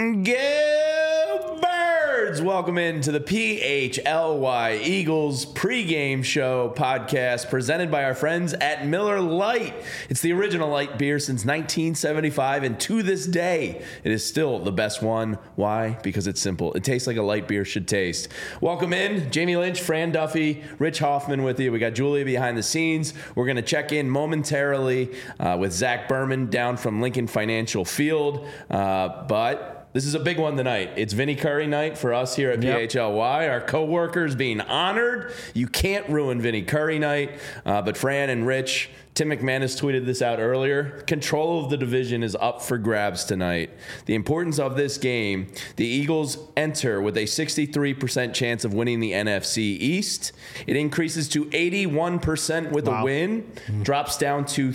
Go Birds! Welcome into the PHLY Eagles pregame show podcast presented by our friends at Miller Lite. It's the original light beer since 1975, and to this day, it is still the best one. Why? Because it's simple. It tastes like a light beer should taste. Welcome in. Jamie Lynch, Fran Duffy, Rich Hoffman with you. We got Julia behind the scenes. We're going to check in momentarily with Zach Berman down from Lincoln Financial Field. But this is a big one tonight. It's Vinny Curry night for us here at PHLY. Our co-workers being honored. You can't ruin Vinny Curry night. But Fran and Rich, Tim McManus tweeted this out earlier. Control of the division is up for grabs tonight. The importance of this game, the Eagles enter with a 63% chance of winning the NFC East. It increases to 81% with a win, drops down to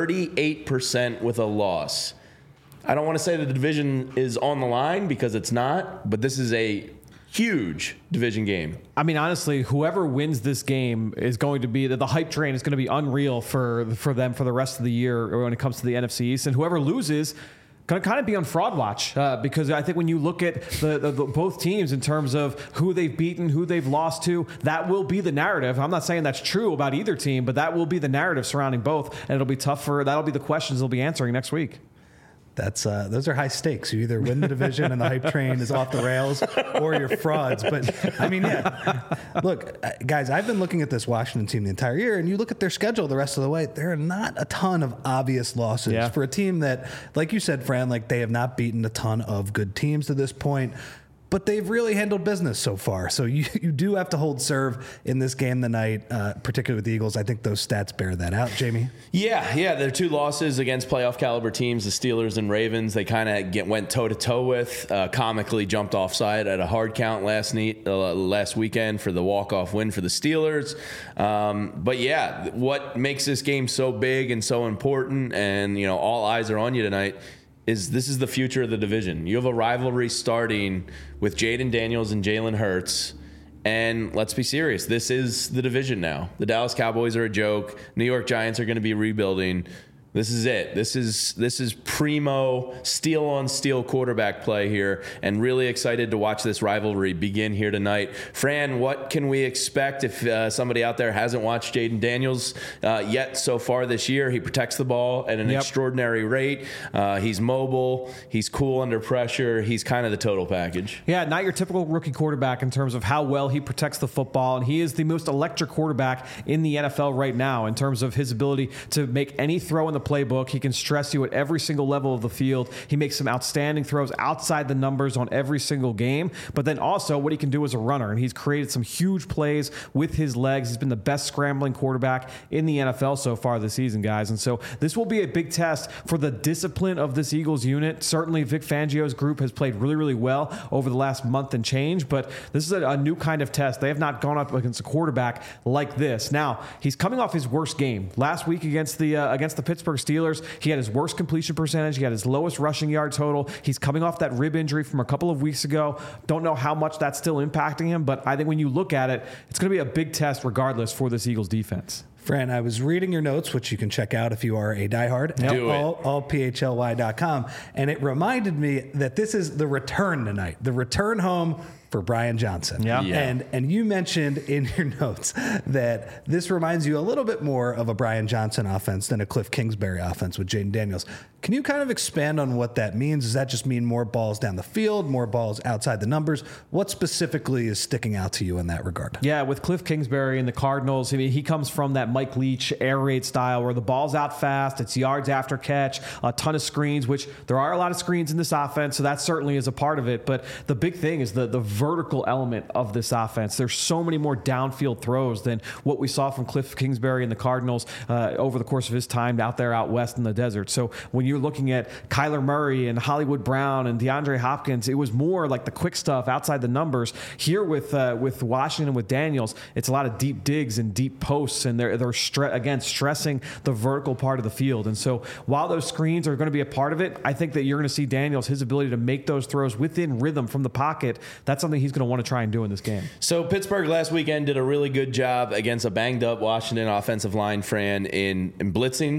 38% with a loss. I don't want to say that the division is on the line because it's not, but this is a huge division game. I mean, honestly, whoever wins this game is going to be the hype train is going to be unreal for them for the rest of the year when it comes to the NFC East, and whoever loses going to kind of be on fraud watch because I think when you look at the both teams in terms of who they've beaten, who they've lost to, that will be the narrative. I'm not saying that's true about either team, but that will be the narrative surrounding both, and it'll be tough that'll be the questions they'll be answering next week. Those are high stakes. You either win the division and the hype train is off the rails, or you're frauds. But I mean, look, guys, I've been looking at this Washington team the entire year, and you look at their schedule the rest of the way. There are not a ton of obvious losses for a team that, like you said, Fran, like they have not beaten a ton of good teams to this point. But they've really handled business so far. So you do have to hold serve in this game tonight, particularly with the Eagles. I think those stats bear that out, Jamie. Yeah. Their two losses against playoff caliber teams, the Steelers and Ravens, they kind of went toe-to-toe with. Comically jumped offside at a hard count last weekend for the walk-off win for the Steelers. But yeah, what makes this game so big and so important, and all eyes are on you tonight, this is the future of the division. You have a rivalry starting with Jayden Daniels and Jalen Hurts. And let's be serious. This is the division now. The Dallas Cowboys are a joke. New York Giants are going to be rebuilding. This is it. This is primo steel-on-steel quarterback play here, and really excited to watch this rivalry begin here tonight. Fran, what can we expect if somebody out there hasn't watched Jayden Daniels yet so far this year? He protects the ball at an extraordinary rate. He's mobile. He's cool under pressure. He's kind of the total package. Yeah, not your typical rookie quarterback in terms of how well he protects the football, and he is the most electric quarterback in the NFL right now in terms of his ability to make any throw in the playbook. He can stress you at every single level of the field. He makes some outstanding throws outside the numbers on every single game, but then also what he can do as a runner, and he's created some huge plays with his legs. He's been the best scrambling quarterback in the NFL so far this season, guys, and so this will be a big test for the discipline of this Eagles unit. Certainly Vic Fangio's group has played really, really well over the last month and change, but this is a new kind of test. They have not gone up against a quarterback like this. Now, he's coming off his worst game. Last week against the Pittsburgh Steelers, he had his worst completion percentage. He had his lowest rushing yard total. He's coming off that rib injury from a couple of weeks ago. Don't know how much that's still impacting him, but I think when you look at it, it's going to be a big test regardless for this Eagles defense. Fran, I was reading your notes, which you can check out if you are a diehard at allphly.com, and it reminded me that this is the return tonight, the return home for Brian Johnson. Yeah. And you mentioned in your notes that this reminds you a little bit more of a Brian Johnson offense than a Cliff Kingsbury offense with Jayden Daniels. Can you kind of expand on what that means? Does that just mean more balls down the field, more balls outside the numbers? What specifically is sticking out to you in that regard? Yeah, with Cliff Kingsbury and the Cardinals, I mean, he comes from that Mike Leach air raid style where the ball's out fast, it's yards after catch, a ton of screens, which there are a lot of screens in this offense, so that certainly is a part of it. But the big thing is the vertical element of this offense. There's so many more downfield throws than what we saw from Cliff Kingsbury and the Cardinals over the course of his time out there out west in the desert. So when you're looking at Kyler Murray and Hollywood Brown and DeAndre Hopkins, it was more like the quick stuff outside the numbers. Here with Washington, with Daniels, it's a lot of deep digs and deep posts, and they're stressing the vertical part of the field. And so while those screens are going to be a part of it, I think that you're going to see Daniels, his ability to make those throws within rhythm from the pocket. That's something he's going to want to try and do in this game. So Pittsburgh last weekend did a really good job against a banged up Washington offensive line, Fran, in blitzing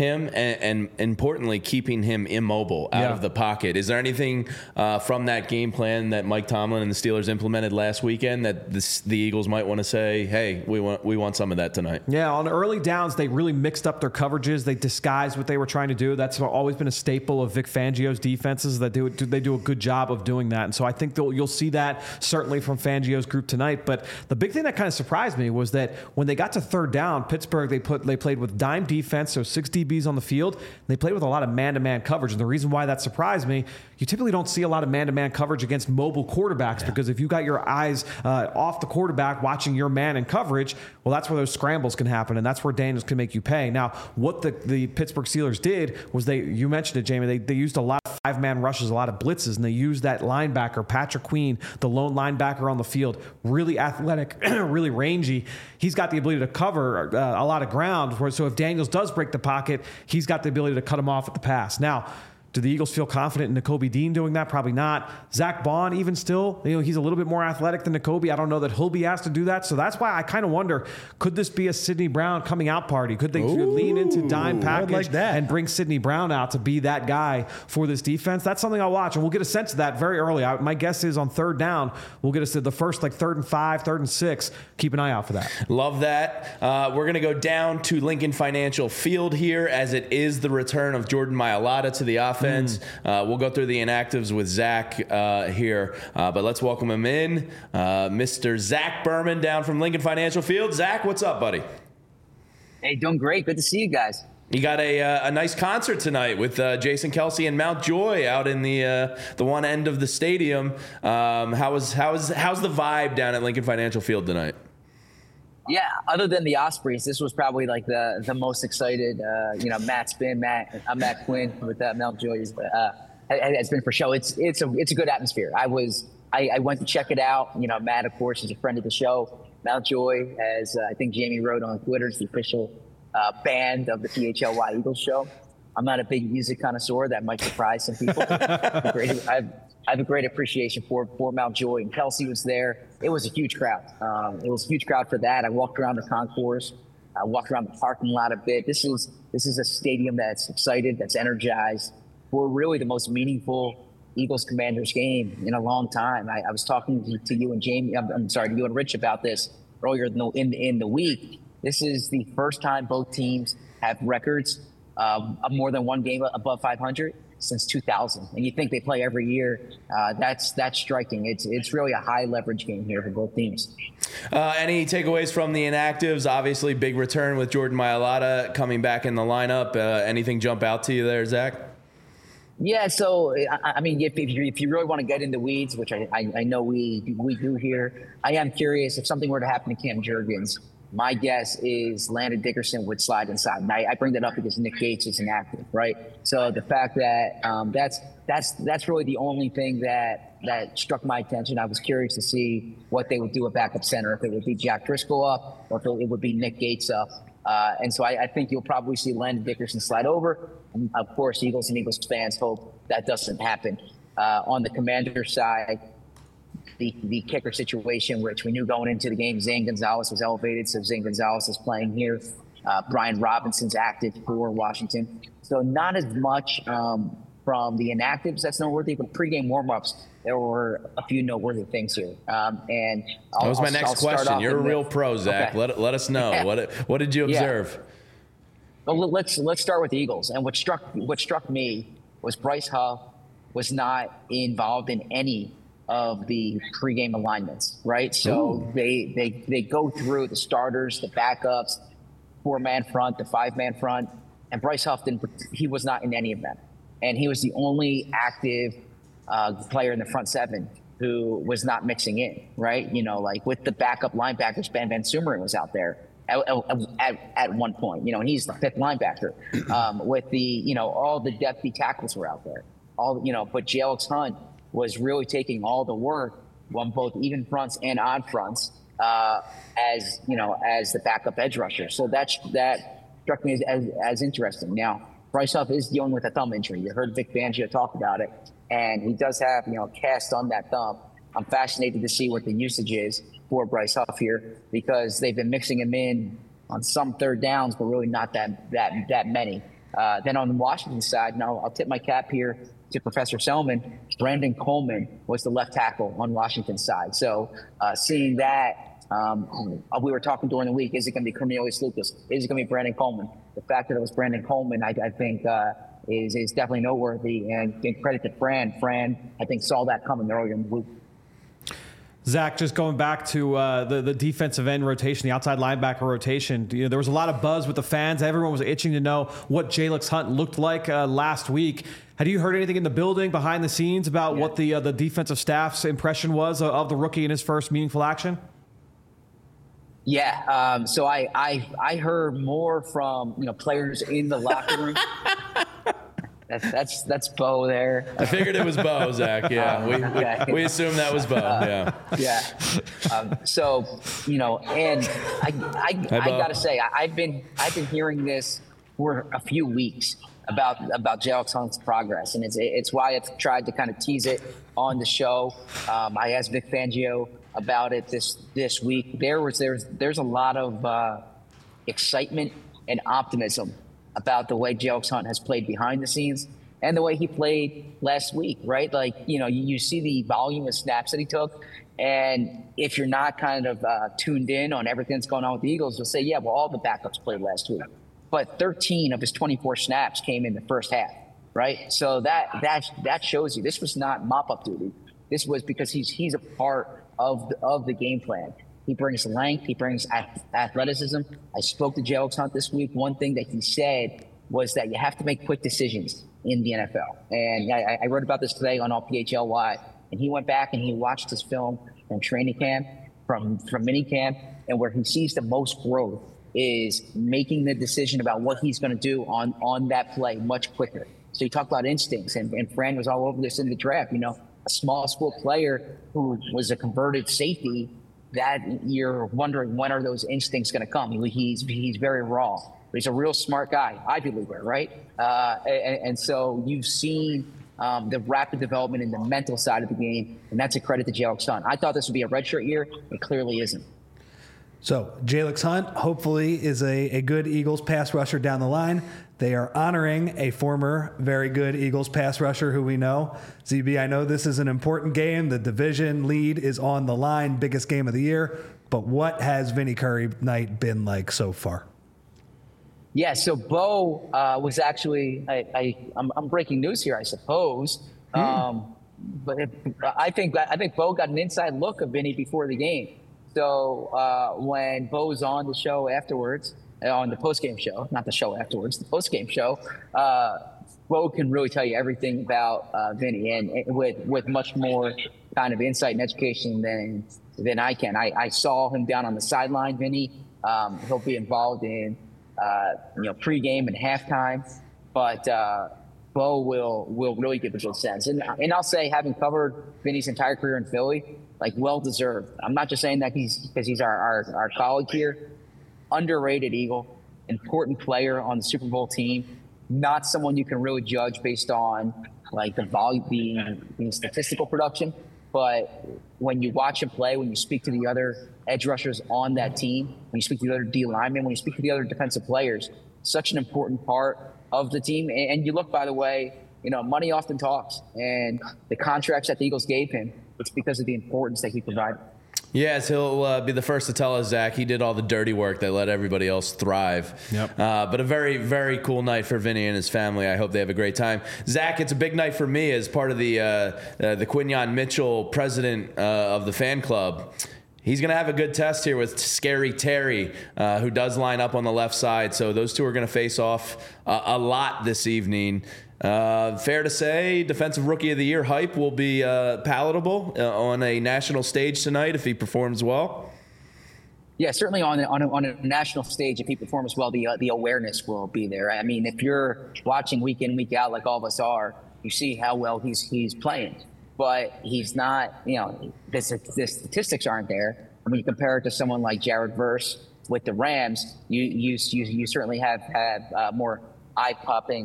him and importantly, keeping him immobile out of the pocket. Is there anything from that game plan that Mike Tomlin and the Steelers implemented last weekend that the Eagles might want to say, hey, we want some of that tonight? Yeah, on early downs, they really mixed up their coverages. They disguised what they were trying to do. That's always been a staple of Vic Fangio's defenses. They do a good job of doing that. And so I think you'll see that certainly from Fangio's group tonight. But the big thing that kind of surprised me was that when they got to third down, Pittsburgh, they played with dime defense, so 6 DBs on the field. They played with a lot of man-to-man coverage. And the reason why that surprised me, you typically don't see a lot of man-to-man coverage against mobile quarterbacks because if you got your eyes off the quarterback watching your man in coverage, well, that's where those scrambles can happen, and that's where Daniels can make you pay. Now, what the Pittsburgh Steelers did was you mentioned it, Jamie, they used a lot of 5-man rushes, a lot of blitzes, and they used that linebacker, Patrick Queen, the lone linebacker on the field, really athletic, really rangy. He's got the ability to cover a lot of ground, so if Daniels does break the pocket, he's got the ability to cut him off at the pass. Now, do the Eagles feel confident in Nakobe Dean doing that? Probably not. Zach Bond, even still, he's a little bit more athletic than Nakobe. I don't know that he'll be asked to do that. So that's why I kind of wonder, could this be a Sidney Brown coming out party? Could they lean into dime package and bring Sidney Brown out to be that guy for this defense? That's something I'll watch, and we'll get a sense of that very early. My guess is on third down, we'll get the first 3rd and 5, 3rd and 6. Keep an eye out for that. Love that. We're going to go down to Lincoln Financial Field here as it is the return of Jordan Mailata to the offense. We'll go through the inactives with Zach here, but let's welcome him in. Mr. Zach Berman down from Lincoln Financial Field. Zach, what's up, buddy? Hey, doing great. Good to see you guys. You got a nice concert tonight with Jason Kelce and Mount Joy out in the one end of the stadium. How's the vibe down at Lincoln Financial Field tonight? Yeah, other than the Ospreys, this was probably like the most excited. Matt Quinn with Mount Joy has been for show. It's a good atmosphere. I went to check it out. Matt, of course, is a friend of the show. Mount Joy, as I think Jamie wrote on Twitter, is the official band of the PHLY Eagles show. I'm not a big music connoisseur. That might surprise some people. I have a great appreciation for Mount Joy, and Kelce was there. It was a huge crowd. It was a huge crowd for that. I walked around the concourse. I walked around the parking lot a bit. This is a stadium that's excited, that's energized for really the most meaningful Eagles-Commanders game in a long time. I was talking to you and Jamie. I'm sorry, to you and Rich about this earlier in the week. This is the first time both teams have records of more than one game above 500 since 2000. And you think they play every year. That's striking. It's really a high leverage game here for both teams. Any takeaways from the inactives? Obviously, big return with Jordan Mailata coming back in the lineup. Anything jump out to you there, Zach? Yeah, so, I mean, if you really want to get in the weeds, which I know we do here, I am curious if something were to happen to Cam Jurgens. My guess is Landon Dickerson would slide inside. And I bring that up because Nick Gates is inactive, right? So the fact that that's really the only thing that struck my attention. I was curious to see what they would do at backup center, if it would be Jack Driscoll up or if it would be Nick Gates up. And so I think you'll probably see Landon Dickerson slide over. And of course, Eagles and Eagles fans hope that doesn't happen. On the Commander side, the kicker situation, which we knew going into the game, Zane Gonzalez was elevated, so Zane Gonzalez is playing here. Brian Robinson's active for Washington. So not as much from the inactives that's noteworthy, but pregame warmups, there were a few noteworthy things here. And that was my next question. You're a real pro, Zach. Okay. Let us know. Yeah. What did you observe? Yeah. Well, let's start with the Eagles. And what struck me was Bryce Huff was not involved in any of the pregame alignments, right? So they go through the starters, the backups, 4-man front, the 5-man front, and Bryce Huff he was not in any of them. And he was the only active player in the front 7 who was not mixing in, right? Like with the backup linebackers, Ben Van Sumeren was out there at one point, and he's the 5th linebacker. With the, all the depthy tackles were out there. But J.Alex Hunt was really taking all the work on both even fronts and odd fronts as the backup edge rusher. So that struck me as interesting. Now, Bryce Huff is dealing with a thumb injury. You heard Vic Fangio talk about it, and he does have a cast on that thumb. I'm fascinated to see what the usage is for Bryce Huff here, because they've been mixing him in on some third downs, but really not that many. Then on the Washington side, now I'll tip my cap here to Professor Selman. Brandon Coleman was the left tackle on Washington's side. So seeing that, we were talking during the week, is it going to be Cornelius Lucas? Is it going to be Brandon Coleman? The fact that it was Brandon Coleman, I think, is definitely noteworthy. And credit to Fran. Fran, I think, saw that coming earlier in the week. Zach, just going back to the defensive end rotation, the outside linebacker rotation, there was a lot of buzz with the fans. Everyone was itching to know what Jalyx Hunt looked like last week. Had you heard anything in the building, behind the scenes, about what the defensive staff's impression was of the rookie in his first meaningful action? Yeah, so I heard more from players in the locker room. That's Bo there. I figured it was Bo, Zach. Yeah, we assumed that was Bo. Yeah. So and I gotta say, I've been hearing this for a few weeks about Jalyx Hunt's progress, and it's why I've tried to kind of tease it on the show. I asked Vic Fangio about it this week. There's a lot of excitement and optimism about the way Jalyx Hunt has played behind the scenes and the way he played last week, right? Like, you see the volume of snaps that he took. And if you're not kind of tuned in on everything that's going on with the Eagles, you'll say, yeah, well, all the backups played last week. But 13 of his 24 snaps came in the first half, right? So that shows you this was not mop-up duty. This was because he's a part of the game plan. He brings length. He brings athleticism. I spoke to Jalyx Hunt this week. One thing that he said was that you have to make quick decisions in the NFL. And I wrote about this today on All PHLY. And he went back and he watched his film from training camp, from mini camp, and where he sees the most growth is making the decision about what he's going to do on that play much quicker. So you talk about instincts, and Fran was all over this in the draft. A small school player who was a converted safety, that you're wondering, when are those instincts going to come? He's very raw, but he's a real smart guy, Ivy Leaguer, right? And so you've seen the rapid development in the mental side of the game, and that's a credit to Jalyx Hunt. I thought this would be a redshirt year. It clearly isn't. So Jalyx Hunt hopefully is a good Eagles pass rusher down the line. They are honoring a former very good Eagles pass rusher who we know. ZB, I know this is an important game. The division lead is on the line, biggest game of the year. But what has Vinny Curry night been like so far? Yeah, so Bo was actually, I'm breaking news here, I suppose. But I think Bo got an inside look of Vinny before the game. So when Bo's on the show afterwards, on the post-game show, not the show afterwards, the post-game show, Bo can really tell you everything about Vinny, and with much more kind of insight and education than I can. I saw him down on the sideline, Vinny. He'll be involved in pregame and halftime, but Bo will really give a good sense. And I'll say, having covered Vinny's entire career in Philly, like, well deserved. I'm not just saying that because he's our colleague here. Underrated Eagle, important player on the Super Bowl team. Not someone you can really judge based on like the volume, the statistical production, but when you watch him play, when you speak to the other edge rushers on that team, when you speak to the other D linemen, when you speak to the other defensive players, such an important part of the team. And you look, by the way, money often talks, and the contracts that the Eagles gave him, it's because of the importance that he provided. Yes, he'll be the first to tell us, Zach, he did all the dirty work that let everybody else thrive. Yep. But a very, very cool night for Vinny and his family. I hope they have a great time. Zach, it's a big night for me as part of the Quinyon Mitchell president of the fan club. He's going to have a good test here with Scary Terry, who does line up on the left side. So those two are going to face off a lot this evening. Fair to say, Defensive Rookie of the Year hype will be palatable on a national stage tonight if he performs well. Yeah, certainly on a national stage, if he performs well, the awareness will be there. I mean, if you're watching week in, week out, like all of us are, you see how well he's playing. But he's not, the statistics aren't there. When you compare it to someone like Jared Verse with the Rams, you certainly have more eye-popping.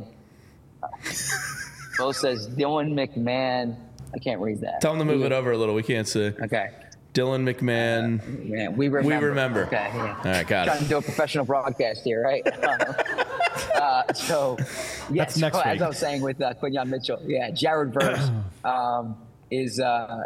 Bo says Dylan McMahon. I can't read that. Tell him to move it over a little. We can't see. Okay. Dylan McMahon. Yeah, we remember. Okay. Yeah. All right, got it. Trying to do a professional broadcast here, right? So yes, That's next as week. I was saying with Quinyon Mitchell, Jared Verse is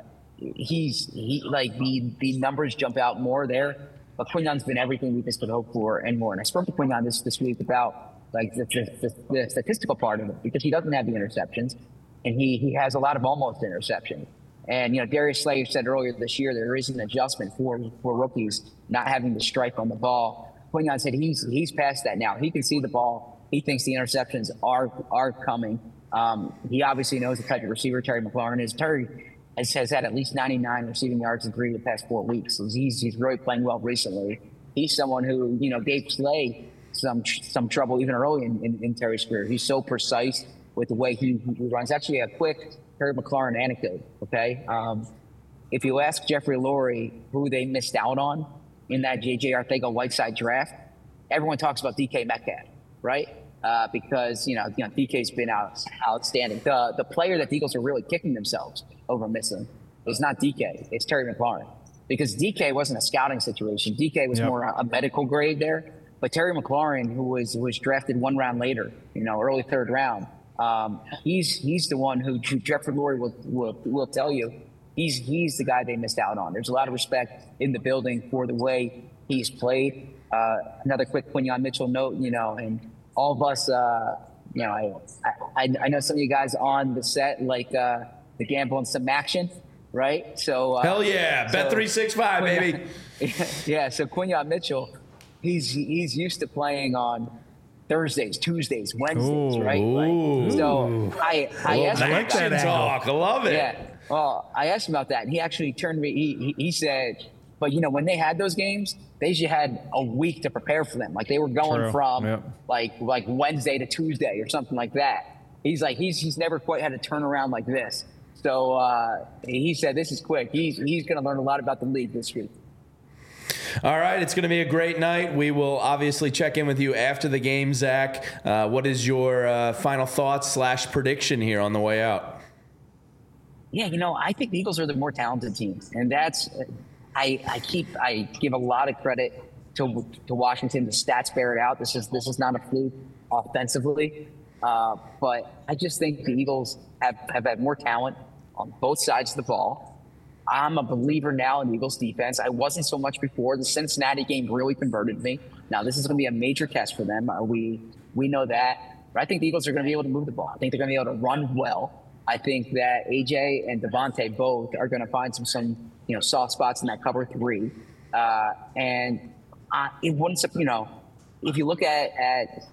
like the numbers jump out more there. But Quinyon's been everything we just could hope for and more. And I spoke to Quinyon this week about like the statistical part of it, because he doesn't have the interceptions, and he has a lot of almost interceptions. And Darius Slay said earlier this year there is an adjustment for rookies not having to strike on the ball. Quinyon said he's past that now. He can see the ball. He thinks the interceptions are coming. He obviously knows the type of receiver Terry McLaurin is. Terry has had at least 99 receiving yards in 3 of the past 4 weeks. So he's really playing well recently. He's someone who gave Slay some trouble even early in Terry's career. He's so precise with the way he runs. Actually, a quick Terry McLaurin anecdote. Okay, if you ask Jeffrey Lurie who they missed out on in that J.J. Arcega-Whiteside draft, everyone talks about DK Metcalf, right? Because DK's been outstanding. The player that the Eagles are really kicking themselves over missing is not DK, it's Terry McLaurin. Because DK wasn't a scouting situation. DK was more a medical grade there. But Terry McLaurin, who was drafted 1 round later, early 3rd round, he's the one who Jeffrey Lurie will tell you he's the guy they missed out on. There's a lot of respect in the building for the way he's played. Another quick Quinyon Mitchell note, and all of us, I know some of you guys on the set like the gamble and some action, right? So hell yeah, Bet365 baby. Yeah, so Quinyon Mitchell, he's used to playing on Thursdays, Tuesdays, Wednesdays, right? So I asked him action talk. I love it. Yeah. Well, I asked him about that, and he actually turned me. He said, but when they had those games, they usually had a week to prepare for them. Like they were going from like Wednesday to Tuesday or something like that. He's like he's never quite had a turnaround like this. So he said this is quick. He's going to learn a lot about the league this week. All right, it's going to be a great night. We will obviously check in with you after the game, Zach. What is your final thoughts / prediction here on the way out? Yeah, I think the Eagles are the more talented team, and that's I give a lot of credit to Washington. The stats bear it out. This is not a fluke offensively, but I just think the Eagles have had more talent on both sides of the ball. I'm a believer now in the Eagles defense. I wasn't so much before. The Cincinnati game really converted me. Now this is going to be a major test for them. We know that. But I think the Eagles are going to be able to move the ball. I think they're going to be able to run well. I think that AJ and Devontae both are going to find some soft spots in that cover 3. And it wouldn't, if you look at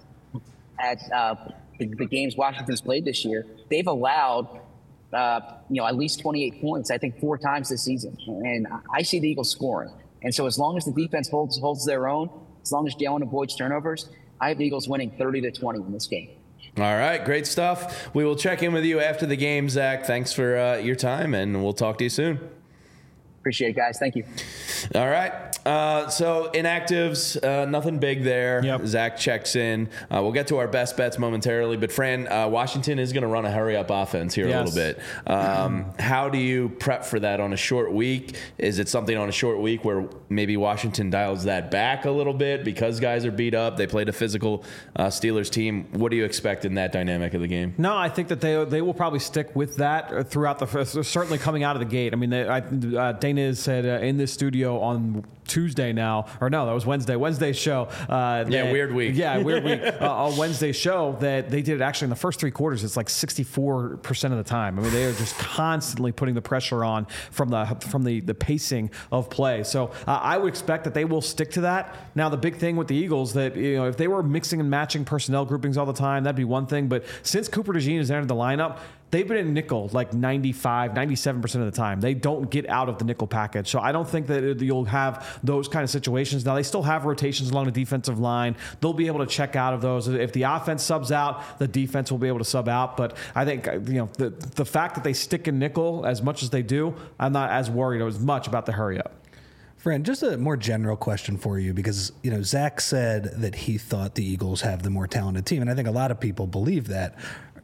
the games Washington's played this year, they've allowed at least 28 points, I think 4 times this season. And I see the Eagles scoring. And so as long as the defense holds their own, as long as Jalen avoids turnovers, I have the Eagles winning 30-20 in this game. All right, great stuff. We will check in with you after the game, Zach. Thanks for your time, and we'll talk to you soon. Appreciate it, guys. Thank you. All right. So inactives, nothing big there. Yep. Zach checks in. We'll get to our best bets momentarily. But Fran, Washington is going to run a hurry-up offense here a little bit. How do you prep for that on a short week? Is it something on a short week where maybe Washington dials that back a little bit because guys are beat up? They played a physical Steelers team. What do you expect in that dynamic of the game? No, I think that they will probably stick with that throughout certainly coming out of the gate. I mean, Dana said in this studio on Tuesday now, or no, that was Wednesday's show. Weird week. Yeah, weird week. On Wednesday's show that they did it actually in the first 3 quarters. It's like 64% of the time. I mean, they are just constantly putting the pressure on from the pacing of play. So I would expect that they will stick to that. Now, the big thing with the Eagles that, if they were mixing and matching personnel groupings all the time, that'd be one thing. But since Cooper DeJean has entered the lineup, they've been in nickel like 95, 97% of the time. They don't get out of the nickel package. So I don't think that you'll have those kind of situations. Now, they still have rotations along the defensive line. They'll be able to check out of those. If the offense subs out, the defense will be able to sub out. But I think, the fact that they stick in nickel as much as they do, I'm not as worried as much about the hurry up. Fran, just a more general question for you, because, Zach said that he thought the Eagles have the more talented team, and I think a lot of people believe that.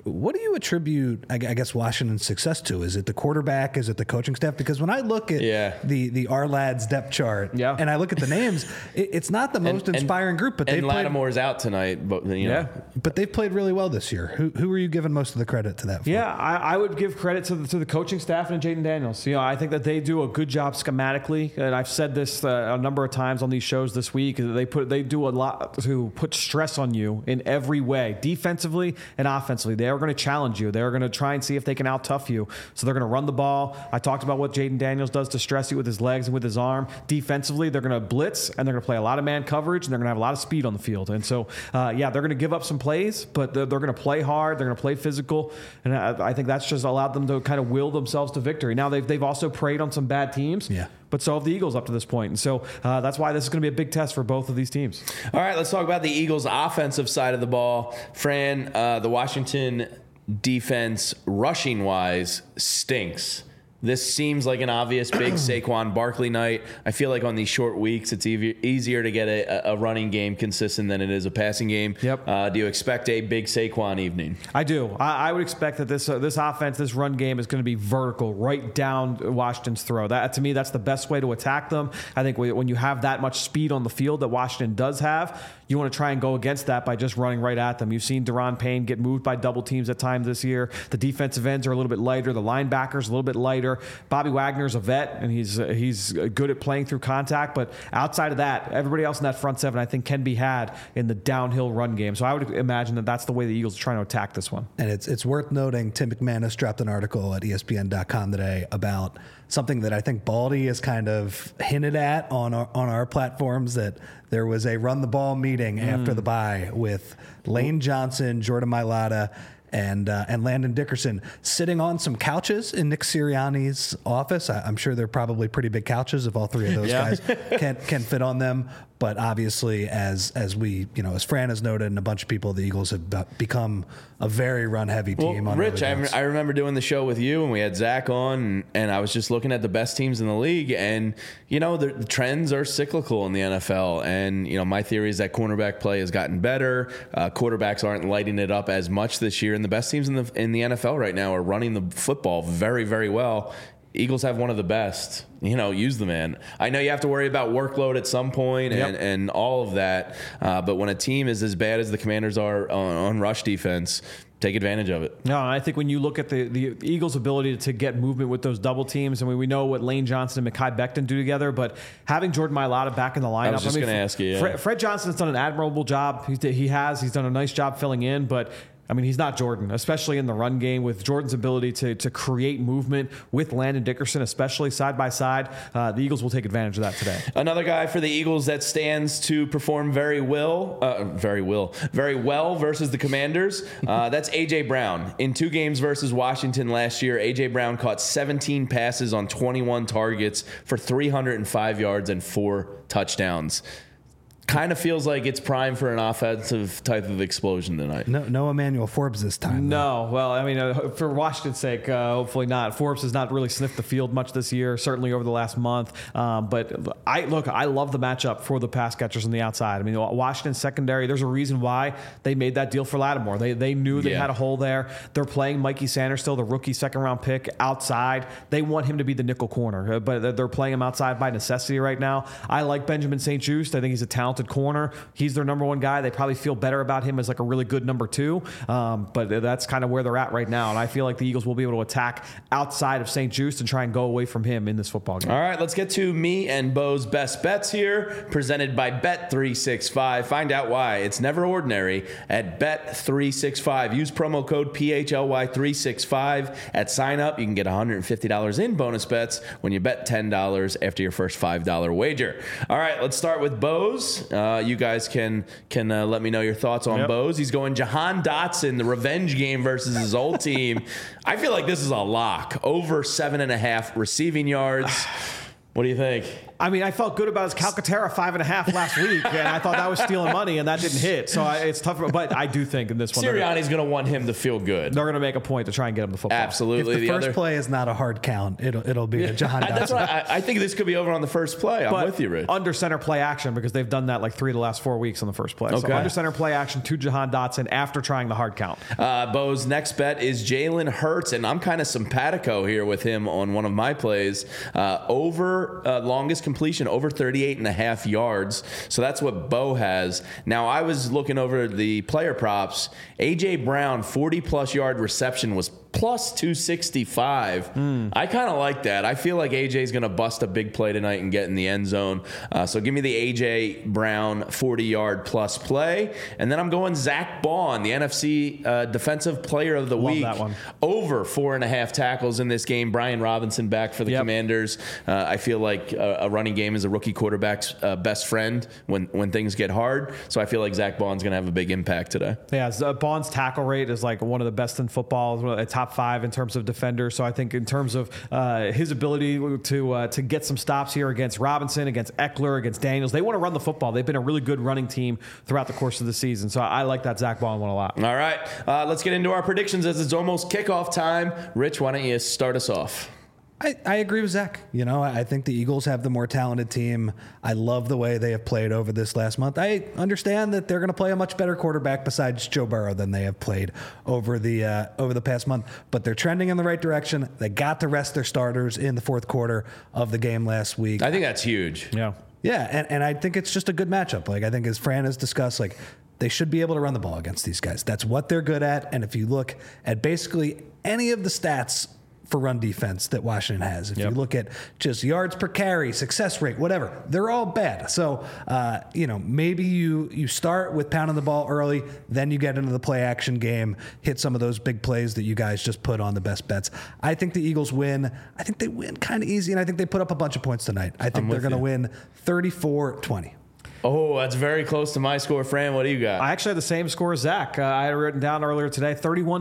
what do you attribute, I guess, Washington's success to? Is it the quarterback? Is it the coaching staff? Because when I look at the R-Lads depth chart and I look at the names, it's not the most inspiring group. But Lattimore's out tonight. But but they've played really well this year. Who are you giving most of the credit to that for? Yeah, I would give credit to the coaching staff and Jaden Daniels. I think that they do a good job schematically, and I've said this a number of times on these shows this week. They do a lot to put stress on you in every way, defensively and offensively. They are going to challenge you. They're going to try and see if they can out-tough you. So they're going to run the ball. I talked about what Jaden Daniels does to stress you with his legs and with his arm. Defensively, they're going to blitz, and they're going to play a lot of man coverage, and they're going to have a lot of speed on the field. And so, they're going to give up some plays, but they're going to play hard. They're going to play physical, and I think that's just allowed them to kind of will themselves to victory. Now, they've also preyed on some bad teams. Yeah. But so have the Eagles up to this point. And so that's why this is going to be a big test for both of these teams. All right, let's talk about the Eagles' offensive side of the ball. Fran, the Washington defense, rushing-wise, stinks. This seems like an obvious big Saquon Barkley night. I feel like on these short weeks, it's easier to get a running game consistent than it is a passing game. Yep. Do you expect a big Saquon evening? I do. I would expect that this offense, this run game is going to be vertical, right down Washington's throat. That, to me, that's the best way to attack them. I think when you have that much speed on the field that Washington does have, you want to try and go against that by just running right at them. You've seen Daron Payne get moved by double teams at times this year. The defensive ends are a little bit lighter. The linebackers a little bit lighter. Bobby Wagner's a vet, and he's good at playing through contact. But outside of that, everybody else in that front seven, I think, can be had in the downhill run game. So I would imagine that that's the way the Eagles are trying to attack this one. And it's worth noting, Tim McManus dropped an article at ESPN.com today about something that I think Baldy has kind of hinted at on our platforms, that there was a run the ball meeting after the bye with Lane Johnson, Jordan Mailata, and Landon Dickerson sitting on some couches in Nick Sirianni's office. I'm sure they're probably pretty big couches if all three of those guys can fit on them. But obviously, as we, as Fran has noted, and a bunch of people, the Eagles have become a very run-heavy team. Well, Rich, I remember doing the show with you, and we had Zach on, and I was just looking at the best teams in the league, and, the trends are cyclical in the NFL. And, my theory is that cornerback play has gotten better. Quarterbacks aren't lighting it up as much this year, and the best teams in the NFL right now are running the football very, very well. Eagles have one of the best. Use the man. I know you have to worry about workload at some point and all of that. But when a team is as bad as the Commanders are on rush defense, take advantage of it. No, I think when you look at the Eagles' ability to get movement with those double teams, we know what Lane Johnson and Mekhi Becton do together, but having Jordan Mailata back in the lineup. I was just going to ask you. Yeah. Fred Johnson has done an admirable job. He's done a nice job filling in, but he's not Jordan, especially in the run game. With Jordan's ability to create movement with Landon Dickerson, especially side by side, the Eagles will take advantage of that today. Another guy for the Eagles that stands to perform very well versus the Commanders. That's A.J. Brown. In 2 games versus Washington last year, A.J. Brown caught 17 passes on 21 targets for 305 yards and 4 touchdowns. Kind of feels like it's prime for an offensive type of explosion tonight. No Emmanuel Forbes this time. No. Well, for Washington's sake, hopefully not. Forbes has not really sniffed the field much this year, certainly over the last month. But I love the matchup for the pass catchers on the outside. Washington secondary, there's a reason why they made that deal for Lattimore. They knew they had a hole there. They're playing Mikey Sanders still, the rookie second-round pick, outside. They want him to be the nickel corner, but they're playing him outside by necessity right now. I like Benjamin St-Juste. I think he's a talented corner. He's their number 1 guy. They probably feel better about him as like a really good number 2. But that's kind of where they're at right now. And I feel like the Eagles will be able to attack outside of St-Juste and try and go away from him in this football game. All right, let's get to me and Bo's best bets here, presented by Bet365. Find out why it's never ordinary at Bet365. Use promo code PHLY365 at sign up. You can get $150 in bonus bets when you bet $10 after your first $5 wager. All right, let's start with Bo's. You guys can let me know your thoughts on Bo's. He's going Jahan Dotson, the revenge game versus his old team. I feel like this is a lock. Over 7.5 receiving yards. What do you think? I mean, I felt good about his Calcaterra 5.5 last week, and I thought that was stealing money, and that didn't hit. So it's tough. But I do think in this one, Sirianni's going to want him to feel good. They're going to make a point to try and get him the football. Absolutely. If the first play is not a hard count, it'll be a Jahan Dotson. That's why I think this could be over on the first play. I'm with you, Rich. Under center play action, because they've done that like 3 of the last 4 weeks on the first play. Okay. So under center play action to Jahan Dotson after trying the hard count. Bo's next bet is Jalen Hurts, and I'm kind of simpatico here with him on one of my plays. Over longest completion, over 38.5 yards. So that's what Bo has. Now, I was looking over the player props. A.J. Brown, 40-plus yard reception was plus 265. I kind of like that. I feel like AJ's going to bust a big play tonight and get in the end zone. So give me the A.J. Brown 40-yard plus play. And then I'm going Zach Baun, the NFC Defensive Player of the Week. That one. Over 4.5 tackles in this game. Brian Robinson back for the Commanders. I feel like a running game is a rookie quarterback's best friend when things get hard. So I feel like Zach Baun's going to have a big impact today. Yeah, Baun's tackle rate is like one of the best in football, a top 5 in terms of defenders. So I think in terms of his ability to get some stops here against Robinson, against Eckler, against Daniels, they want to run the football. They've been a really good running team throughout the course of the season. So I like that Zach Baun one a lot. All right, let's get into our predictions as it's almost kickoff time. Rich, why don't you start us off? I agree with Zach. I think the Eagles have the more talented team. I love the way they have played over this last month. I understand that they're going to play a much better quarterback besides Joe Burrow than they have played over the past month. But they're trending in the right direction. They got to rest their starters in the fourth quarter of the game last week. I think that's huge. Yeah. Yeah, and I think it's just a good matchup. Like, I think as Fran has discussed, like, they should be able to run the ball against these guys. That's what they're good at. And if you look at basically any of the stats for run defense that Washington has, if you look at just yards per carry, success rate, whatever, they're all bad. So, maybe you start with pounding the ball early, then you get into the play action game, hit some of those big plays that you guys just put on the best bets. I think the Eagles win. I think they win kind of easy, and I think they put up a bunch of points tonight. I think they're going to win 34-20. Oh, that's very close to my score. Fran, what do you got? I actually had the same score as Zach. I had written down earlier today,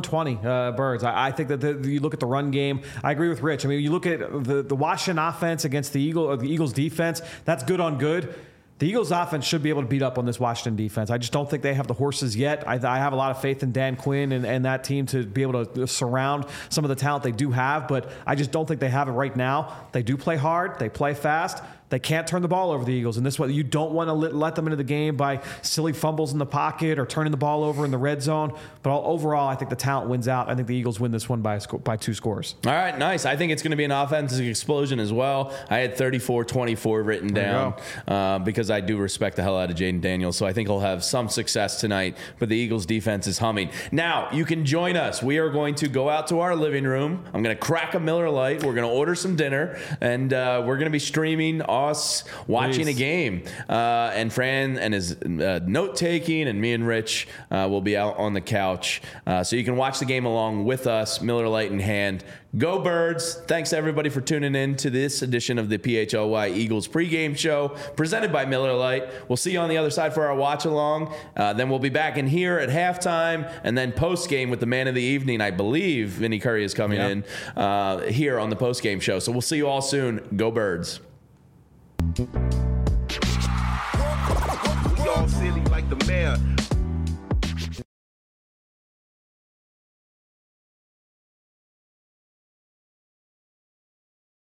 31-20 Birds. I think that you look at the run game. I agree with Rich. I mean, you look at the Washington offense against the Eagles defense. That's good on good. The Eagles offense should be able to beat up on this Washington defense. I just don't think they have the horses yet. I have a lot of faith in Dan Quinn and that team to be able to surround some of the talent they do have, but I just don't think they have it right now. They do play hard. They play fast. They can't turn the ball over the Eagles. And this way, you don't want to let them into the game by silly fumbles in the pocket or turning the ball over in the red zone. But overall, I think the talent wins out. I think the Eagles win this one by 2 scores. All right, nice. I think it's going to be an offensive explosion as well. I had 34-24 written down because I do respect the hell out of Jaden Daniels. So I think he'll have some success tonight. But the Eagles defense is humming. Now, you can join us. We are going to go out to our living room. I'm going to crack a Miller Lite. We're going to order some dinner. And we're going to be streaming us watching a game. And Fran and his note-taking and me and Rich will be out on the couch. So you can watch the game along with us, Miller Lite in hand. Go Birds. Thanks to everybody for tuning in to this edition of the PHLY Eagles pregame show presented by Miller Lite. We'll see you on the other side for our watch along. Then we'll be back in here at halftime and then post-game with the man of the evening. I believe Vinny Curry is coming in here on the post-game show. So we'll see you all soon. Go Birds. We all silly like the mayor.